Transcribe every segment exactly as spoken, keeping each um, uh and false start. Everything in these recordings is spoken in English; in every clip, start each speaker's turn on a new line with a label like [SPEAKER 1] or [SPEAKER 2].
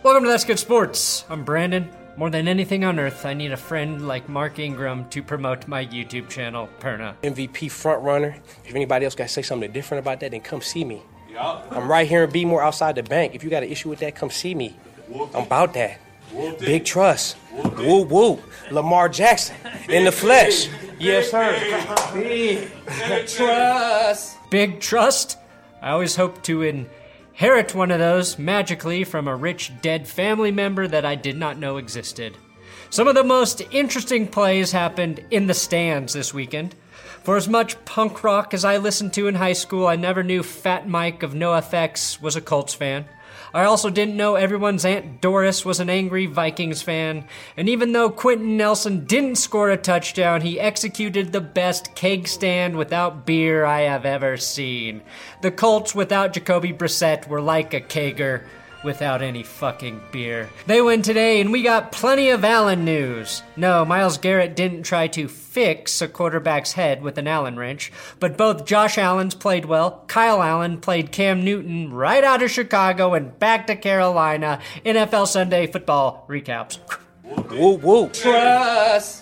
[SPEAKER 1] Welcome to That's Good Sports. I'm Brandon. More than anything on earth, I need a friend like Mark Ingram to promote my YouTube channel, Perna.
[SPEAKER 2] M V P front runner. If anybody else got to say something different about that, then come see me.
[SPEAKER 3] Yup.
[SPEAKER 2] I'm right here in Bmore outside the bank. If you got an issue with that, come see me. I'm about that. Big trust. Woo woo. Lamar Jackson in the flesh. Yes, sir. Big trust.
[SPEAKER 1] Big trust? I always hope to inherit one of those magically from a rich dead family member that I did not know existed. Some of the most interesting plays happened in the stands this weekend. For as much punk rock as I listened to in high school, I never knew Fat Mike of NoFX was a Colts fan. I also didn't know everyone's Aunt Doris was an angry Vikings fan. And even though Quentin Nelson didn't score a touchdown, he executed the best keg stand without beer I have ever seen. The Colts without Jacoby Brissett were like a kegger without any fucking beer. They win today, and we got plenty of Allen news. No, Myles Garrett didn't try to fix a quarterback's head with an Allen wrench, but both Josh Allen's played well. Kyle Allen played Cam Newton right out of Chicago and back to Carolina. N F L Sunday football recaps.
[SPEAKER 2] Woo woo. Trust.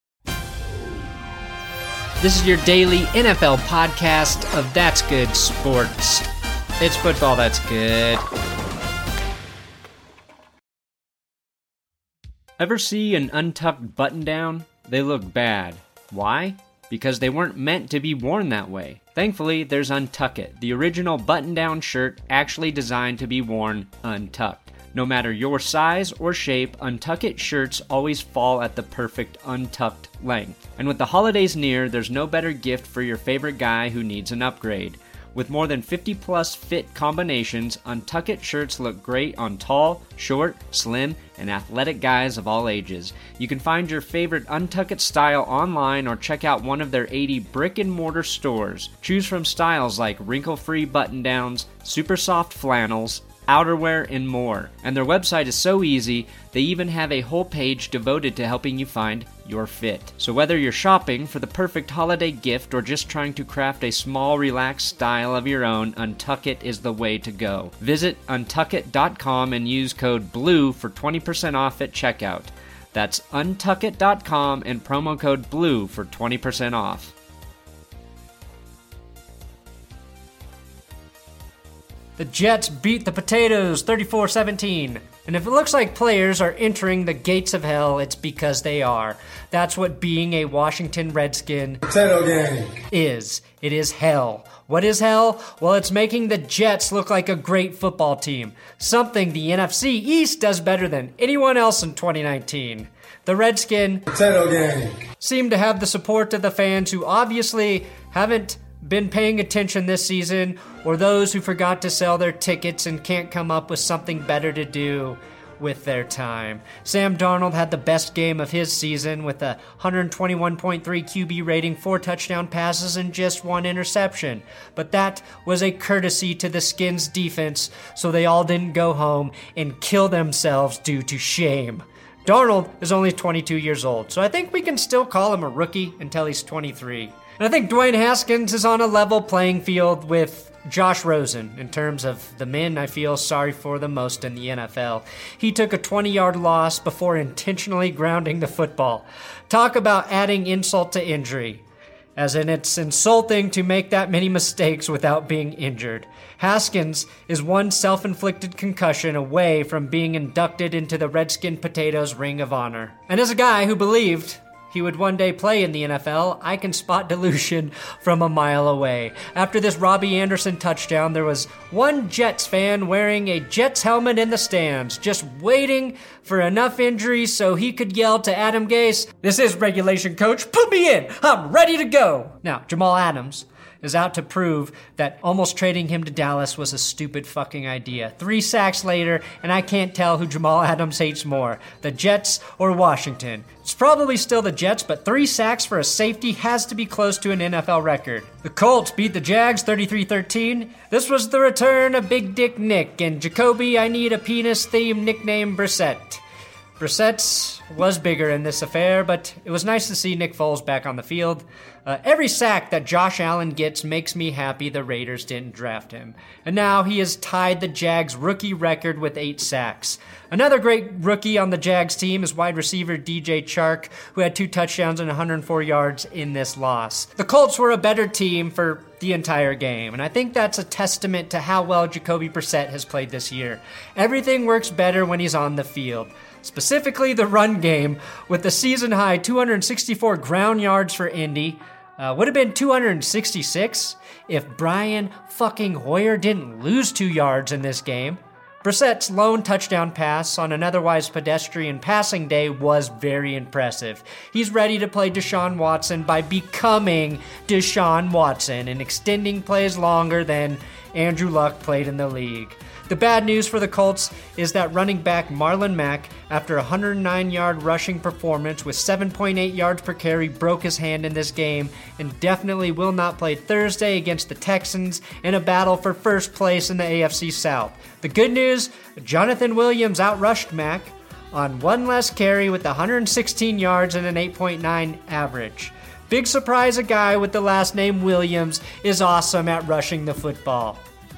[SPEAKER 1] This is your daily N F L podcast of That's Good Sports. It's football that's good. Ever see an untucked button-down? They look bad. Why? Because they weren't meant to be worn that way. Thankfully, there's Untuck It, the original button-down shirt actually designed to be worn untucked. No matter your size or shape, Untuck It shirts always fall at the perfect untucked length. And with the holidays near, there's no better gift for your favorite guy who needs an upgrade. With more than fifty plus fit combinations, Untuck It shirts look great on tall, short, slim, and athletic guys of all ages. You can find your favorite Untuck It style online or check out one of their eighty brick and mortar stores. Choose from styles like wrinkle-free button-downs, super soft flannels, outerwear, and more. And their website is so easy, they even have a whole page devoted to helping you find your fit. So whether you're shopping for the perfect holiday gift or just trying to craft a small, relaxed style of your own, Untuck It is the way to go. Visit untuck it dot com and use code BLUE for twenty percent off at checkout. That's untuck it dot com and promo code BLUE for twenty percent off. The Jets beat the Potatoes thirty-four seventeen. And if it looks like players are entering the gates of hell, it's because they are. That's what being a Washington Redskin
[SPEAKER 3] Potato game
[SPEAKER 1] is. It is hell. What is hell? Well, it's making the Jets look like a great football team. Something the N F C East does better than anyone else in twenty nineteen. The Redskin
[SPEAKER 3] Potato game
[SPEAKER 1] seem to have the support of the fans who obviously haven't been paying attention this season, or those who forgot to sell their tickets and can't come up with something better to do with their time. Sam Darnold had the best game of his season with a one twenty-one point three Q B rating, four touchdown passes, and just one interception. But that was a courtesy to the Skins defense, so they all didn't go home and kill themselves due to shame. Darnold is only twenty-two years old, so I think we can still call him a rookie until he's twenty-three. And I think Dwayne Haskins is on a level playing field with Josh Rosen in terms of the men I feel sorry for the most in the N F L. He took a twenty-yard loss before intentionally grounding the football. Talk about adding insult to injury. As in, it's insulting to make that many mistakes without being injured. Haskins is one self-inflicted concussion away from being inducted into the Redskin Potatoes Ring of Honor. And as a guy who believed he would one day play in the N F L, I can spot delusion from a mile away. After this Robbie Anderson touchdown, there was one Jets fan wearing a Jets helmet in the stands, just waiting for enough injuries so he could yell to Adam Gase, "This is regulation, coach. Put me in. I'm ready to go." Now, Jamal Adams is out to prove that almost trading him to Dallas was a stupid fucking idea. Three sacks later, and I can't tell who Jamal Adams hates more, the Jets or Washington. It's probably still the Jets, but three sacks for a safety has to be close to an N F L record. The Colts beat the Jags thirty-three thirteen. This was the return of Big Dick Nick and Jacoby I Need a Penis-themed nickname Brissett. Brissett's was bigger in this affair, but it was nice to see Nick Foles back on the field. Uh, every sack that Josh Allen gets makes me happy the Raiders didn't draft him. And now he has tied the Jags' rookie record with eight sacks. Another great rookie on the Jags team is wide receiver D J Chark, who had two touchdowns and one hundred four yards in this loss. The Colts were a better team for the entire game, and I think that's a testament to how well Jacoby Brissett has played this year. Everything works better when he's on the field. Specifically the run game, with the season-high two hundred sixty-four ground yards for Indy. Uh, would have been two hundred sixty-six if Brian fucking Hoyer didn't lose two yards in this game. Brissett's lone touchdown pass on an otherwise pedestrian passing day was very impressive. He's ready to play Deshaun Watson by becoming Deshaun Watson and extending plays longer than Andrew Luck played in the league. The bad news for the Colts is that running back Marlon Mack, after a one hundred nine yard rushing performance with seven point eight yards per carry, broke his hand in this game and definitely will not play Thursday against the Texans in a battle for first place in the A F C South. The good news, Jonathan Williams outrushed Mack on one less carry with one hundred sixteen yards and an eight point nine average. Big surprise, a guy with the last name Williams is awesome at rushing the football.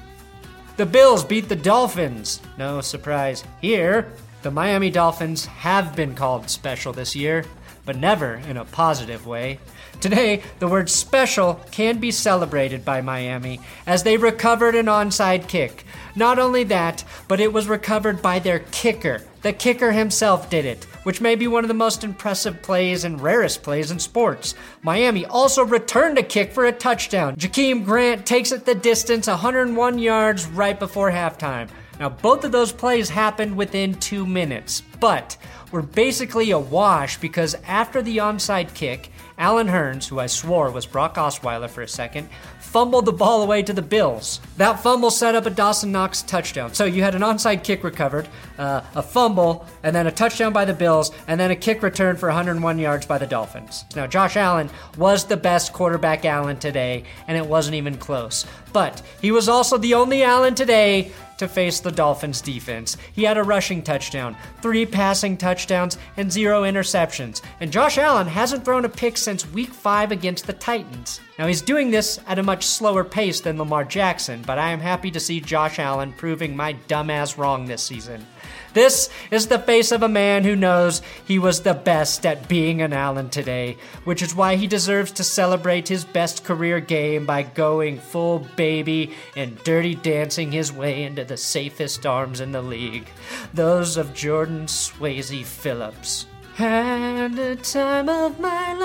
[SPEAKER 1] The Bills beat the Dolphins. No surprise here. The Miami Dolphins have been called special this year, but never in a positive way. Today, the word special can be celebrated by Miami as they recovered an onside kick. Not only that, but it was recovered by their kicker. The kicker himself did it, which may be one of the most impressive plays and rarest plays in sports. Miami also returned a kick for a touchdown. Jakeem Grant takes it the distance, one hundred one yards right before halftime. Now, both of those plays happened within two minutes, but were basically a wash because after the onside kick, Allen Hurns, who I swore was Brock Osweiler for a second, fumbled the ball away to the Bills. That fumble set up a Dawson Knox touchdown. So you had an onside kick recovered, uh, a fumble, and then a touchdown by the Bills, and then a kick return for one hundred one yards by the Dolphins. Now, Josh Allen was the best quarterback Allen today, and it wasn't even close. But he was also the only Allen today to face the Dolphins defense. He had a rushing touchdown, three passing touchdowns, and zero interceptions. And Josh Allen hasn't thrown a pick since week five against the Titans. Now, he's doing this at a much slower pace than Lamar Jackson, but I am happy to see Josh Allen proving my dumbass wrong this season. This is the face of a man who knows he was the best at being an Allen today, which is why he deserves to celebrate his best career game by going full baby and dirty dancing his way into the safest arms in the league, those of Jordan Swayze Phillips. Had the time of my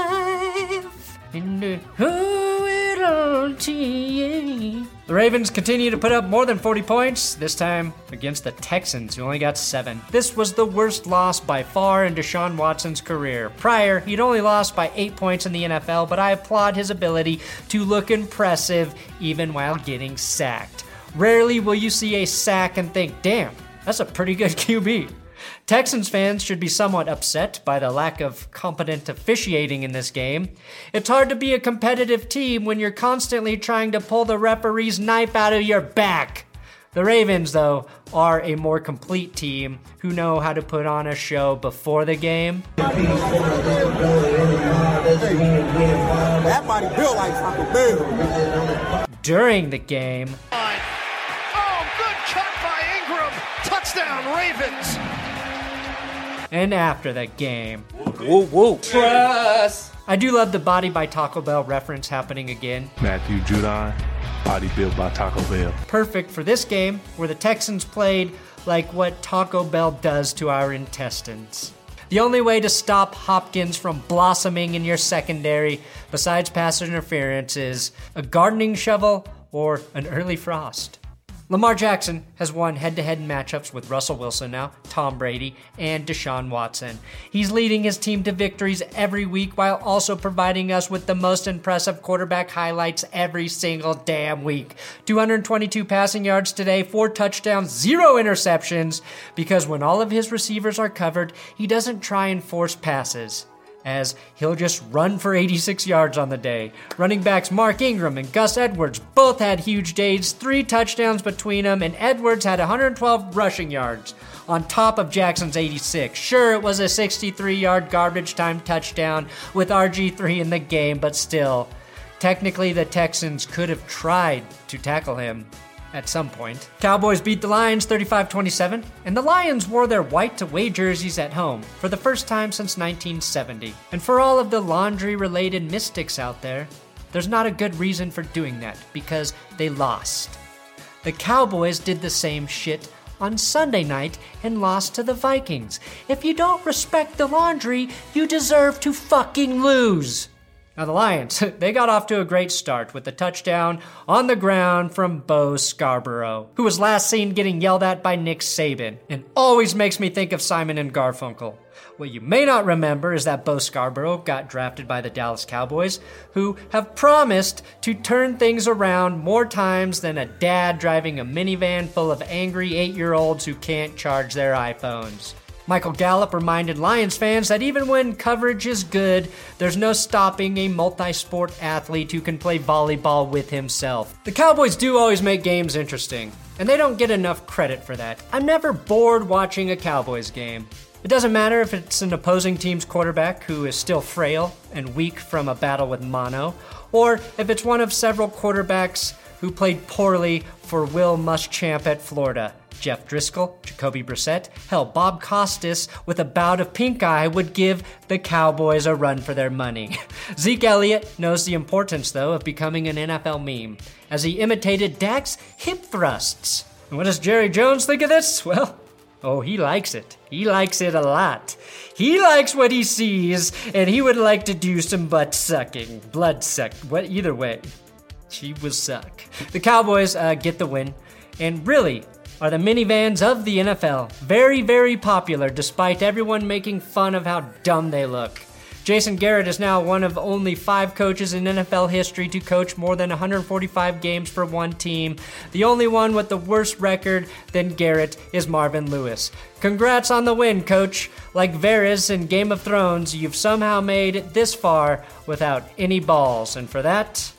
[SPEAKER 1] life, and it owe it all to you. The Ravens continue to put up more than forty points, this time against the Texans, who only got seven. This was the worst loss by far in Deshaun Watson's career. Prior, he'd only lost by eight points in the N F L, but I applaud his ability to look impressive even while getting sacked. Rarely will you see a sack and think, damn, that's a pretty good Q B. Texans fans should be somewhat upset by the lack of competent officiating in this game. It's hard to be a competitive team when you're constantly trying to pull the referee's knife out of your back. The Ravens, though, are a more complete team who know how to put on a show before the game.
[SPEAKER 3] That body built like Taco Bell.
[SPEAKER 1] During the game.
[SPEAKER 4] Oh, good cut by Ingram. Touchdown, Ravens.
[SPEAKER 1] And after the game.
[SPEAKER 2] Woo woo. Trust.
[SPEAKER 1] I do love the Body by Taco Bell reference happening again.
[SPEAKER 5] Matthew Judon, body built by Taco Bell.
[SPEAKER 1] Perfect for this game, where the Texans played like what Taco Bell does to our intestines. The only way to stop Hopkins from blossoming in your secondary, besides pass interference, is a gardening shovel or an early frost. Lamar Jackson has won head-to-head matchups with Russell Wilson now, Tom Brady, and Deshaun Watson. He's leading his team to victories every week while also providing us with the most impressive quarterback highlights every single damn week. two hundred twenty-two passing yards today, four touchdowns, zero interceptions, because when all of his receivers are covered, he doesn't try and force passes. as he'll just run for eighty-six yards on the day. Running backs Mark Ingram and Gus Edwards both had huge days, three touchdowns between them, and Edwards had one hundred twelve rushing yards on top of Jackson's eighty-six. Sure, it was a sixty-three-yard garbage time touchdown with R G three in the game, but still, technically the Texans could have tried to tackle him at some point. Cowboys beat the Lions thirty-five twenty-seven, and the Lions wore their white-away jerseys at home for the first time since nineteen seventy. And for all of the laundry-related mystics out there, there's not a good reason for doing that, because they lost. The Cowboys did the same shit on Sunday night and lost to the Vikings. If you don't respect the laundry, you deserve to fucking lose. Now the Lions, they got off to a great start with a touchdown on the ground from Bo Scarborough, who was last seen getting yelled at by Nick Saban, and always makes me think of Simon and Garfunkel. What you may not remember is that Bo Scarborough got drafted by the Dallas Cowboys, who have promised to turn things around more times than a dad driving a minivan full of angry eight-year-olds who can't charge their iPhones. Michael Gallup reminded Lions fans that even when coverage is good, there's no stopping a multi-sport athlete who can play volleyball with himself. The Cowboys do always make games interesting, and they don't get enough credit for that. I'm never bored watching a Cowboys game. It doesn't matter if it's an opposing team's quarterback who is still frail and weak from a battle with mono, or if it's one of several quarterbacks who played poorly for Will Muschamp at Florida. Jeff Driscoll, Jacoby Brissett, hell, Bob Costas with a bout of pink eye would give the Cowboys a run for their money. Zeke Elliott knows the importance, though, of becoming an N F L meme, as he imitated Dak's hip thrusts. And what does Jerry Jones think of this? Well, oh, he likes it. He likes it a lot. He likes what he sees, and he would like to do some butt sucking. Blood suck. What? Either way, she will suck. The Cowboys uh, get the win, and really are the minivans of the N F L. Very, very popular, despite everyone making fun of how dumb they look. Jason Garrett is now one of only five coaches in N F L history to coach more than one hundred forty-five games for one team. The only one with the worse record than Garrett is Marvin Lewis. Congrats on the win, coach. Like Varys in Game of Thrones, you've somehow made it this far without any balls, and for that,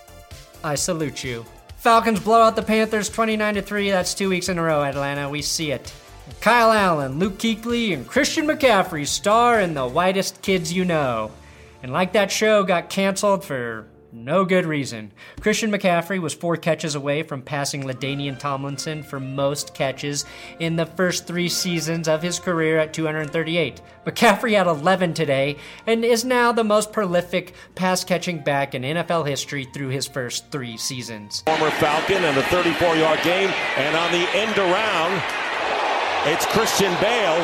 [SPEAKER 1] I salute you. Falcons blow out the Panthers twenty-nine to three. That's two weeks in a row, Atlanta. We see it. Kyle Allen, Luke Kuechly, and Christian McCaffrey star in The Whitest Kids You Know. And like that show got canceled for no good reason. Christian McCaffrey was four catches away from passing LaDainian Tomlinson for most catches in the first three seasons of his career at two hundred thirty-eight. McCaffrey had eleven today and is now the most prolific pass-catching back in N F L history through his first three seasons.
[SPEAKER 6] Former Falcon and the thirty-four-yard game, and on the end around, it's Christian Bale.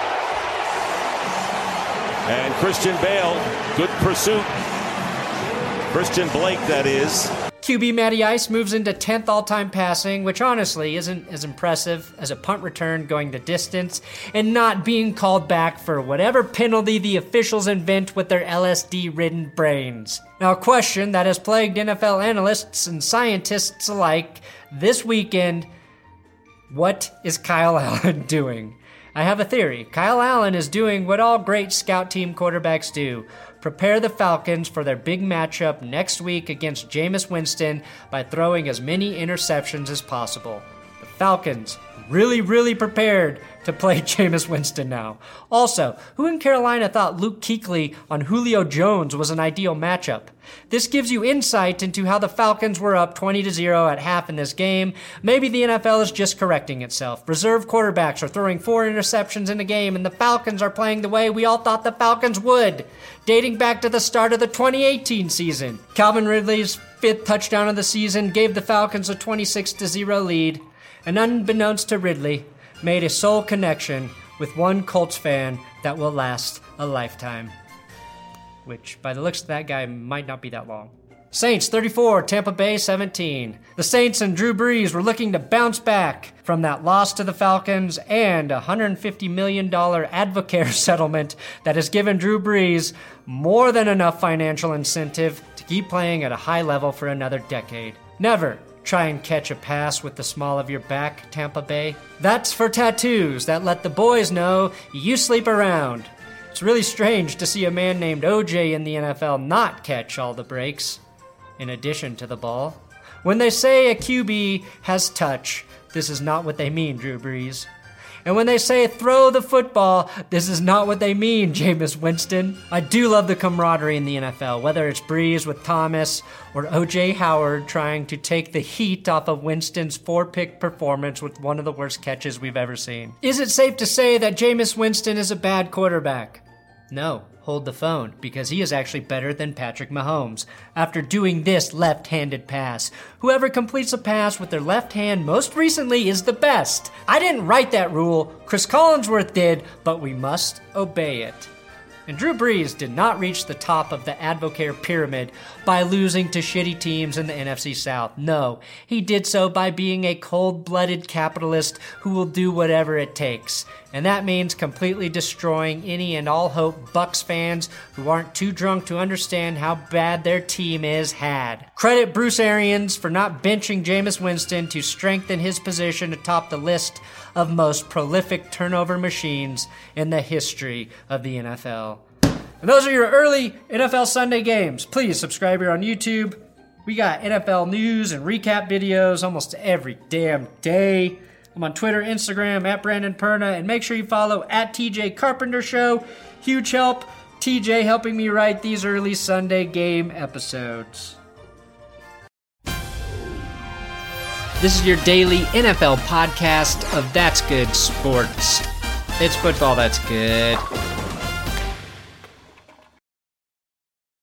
[SPEAKER 6] And Christian Bale, good pursuit. Christian Blake, that is.
[SPEAKER 1] Q B Matty Ice moves into tenth all-time passing, which honestly isn't as impressive as a punt return going the distance and not being called back for whatever penalty the officials invent with their L S D-ridden brains. Now, a question that has plagued N F L analysts and scientists alike this weekend: what is Kyle Allen doing? I have a theory. Kyle Allen is doing what all great scout team quarterbacks do: prepare the Falcons for their big matchup next week against Jameis Winston by throwing as many interceptions as possible. The Falcons really, really prepared to play Jameis Winston now. Also, who in Carolina thought Luke Kuechly on Julio Jones was an ideal matchup? This gives you insight into how the Falcons were up twenty to zero at half in this game. Maybe the N F L is just correcting itself. Reserve quarterbacks are throwing four interceptions in a game, and the Falcons are playing the way we all thought the Falcons would, dating back to the start of the twenty eighteen season. Calvin Ridley's fifth touchdown of the season gave the Falcons a twenty-six to zero lead, and unbeknownst to Ridley, made a soul connection with one Colts fan that will last a lifetime. Which, by the looks of that guy, might not be that long. Saints thirty-four, Tampa Bay seventeen. The Saints and Drew Brees were looking to bounce back from that loss to the Falcons and a one hundred fifty million dollars Advocare settlement that has given Drew Brees more than enough financial incentive to keep playing at a high level for another decade. Never try and catch a pass with the small of your back, Tampa Bay. That's for tattoos that let the boys know you sleep around. It's It's really strange to see a man named O J in the N F L not catch all the breaks, in addition to the ball. When they say a Q B has touch, this is not what they mean, Drew Brees. And when they say throw the football, this is not what they mean, Jameis Winston. I do love the camaraderie in the N F L, whether it's Brees with Thomas or O J Howard trying to take the heat off of Winston's four-pick performance with one of the worst catches we've ever seen. Is it safe to say that Jameis Winston is a bad quarterback? No. Hold the phone, because he is actually better than Patrick Mahomes after doing this left-handed pass. Whoever completes a pass with their left hand most recently is the best. I didn't write that rule, Chris Collinsworth did, but we must obey it. And Drew Brees did not reach the top of the Advocare pyramid by losing to shitty teams in the N F C South. No, he did so by being a cold-blooded capitalist who will do whatever it takes. And that means completely destroying any and all hope Bucs fans who aren't too drunk to understand how bad their team is had. Credit Bruce Arians for not benching Jameis Winston to strengthen his position atop the list of most prolific turnover machines in the history of the N F L. And those are your early N F L Sunday games. Please subscribe here on YouTube. We got N F L news and recap videos almost every damn day. I'm on Twitter, Instagram, at Brandon Perna, and make sure you follow at T J Carpenter Show. Huge help, T J helping me write these early Sunday game episodes. This is your daily N F L podcast of That's Good Sports. It's football that's good.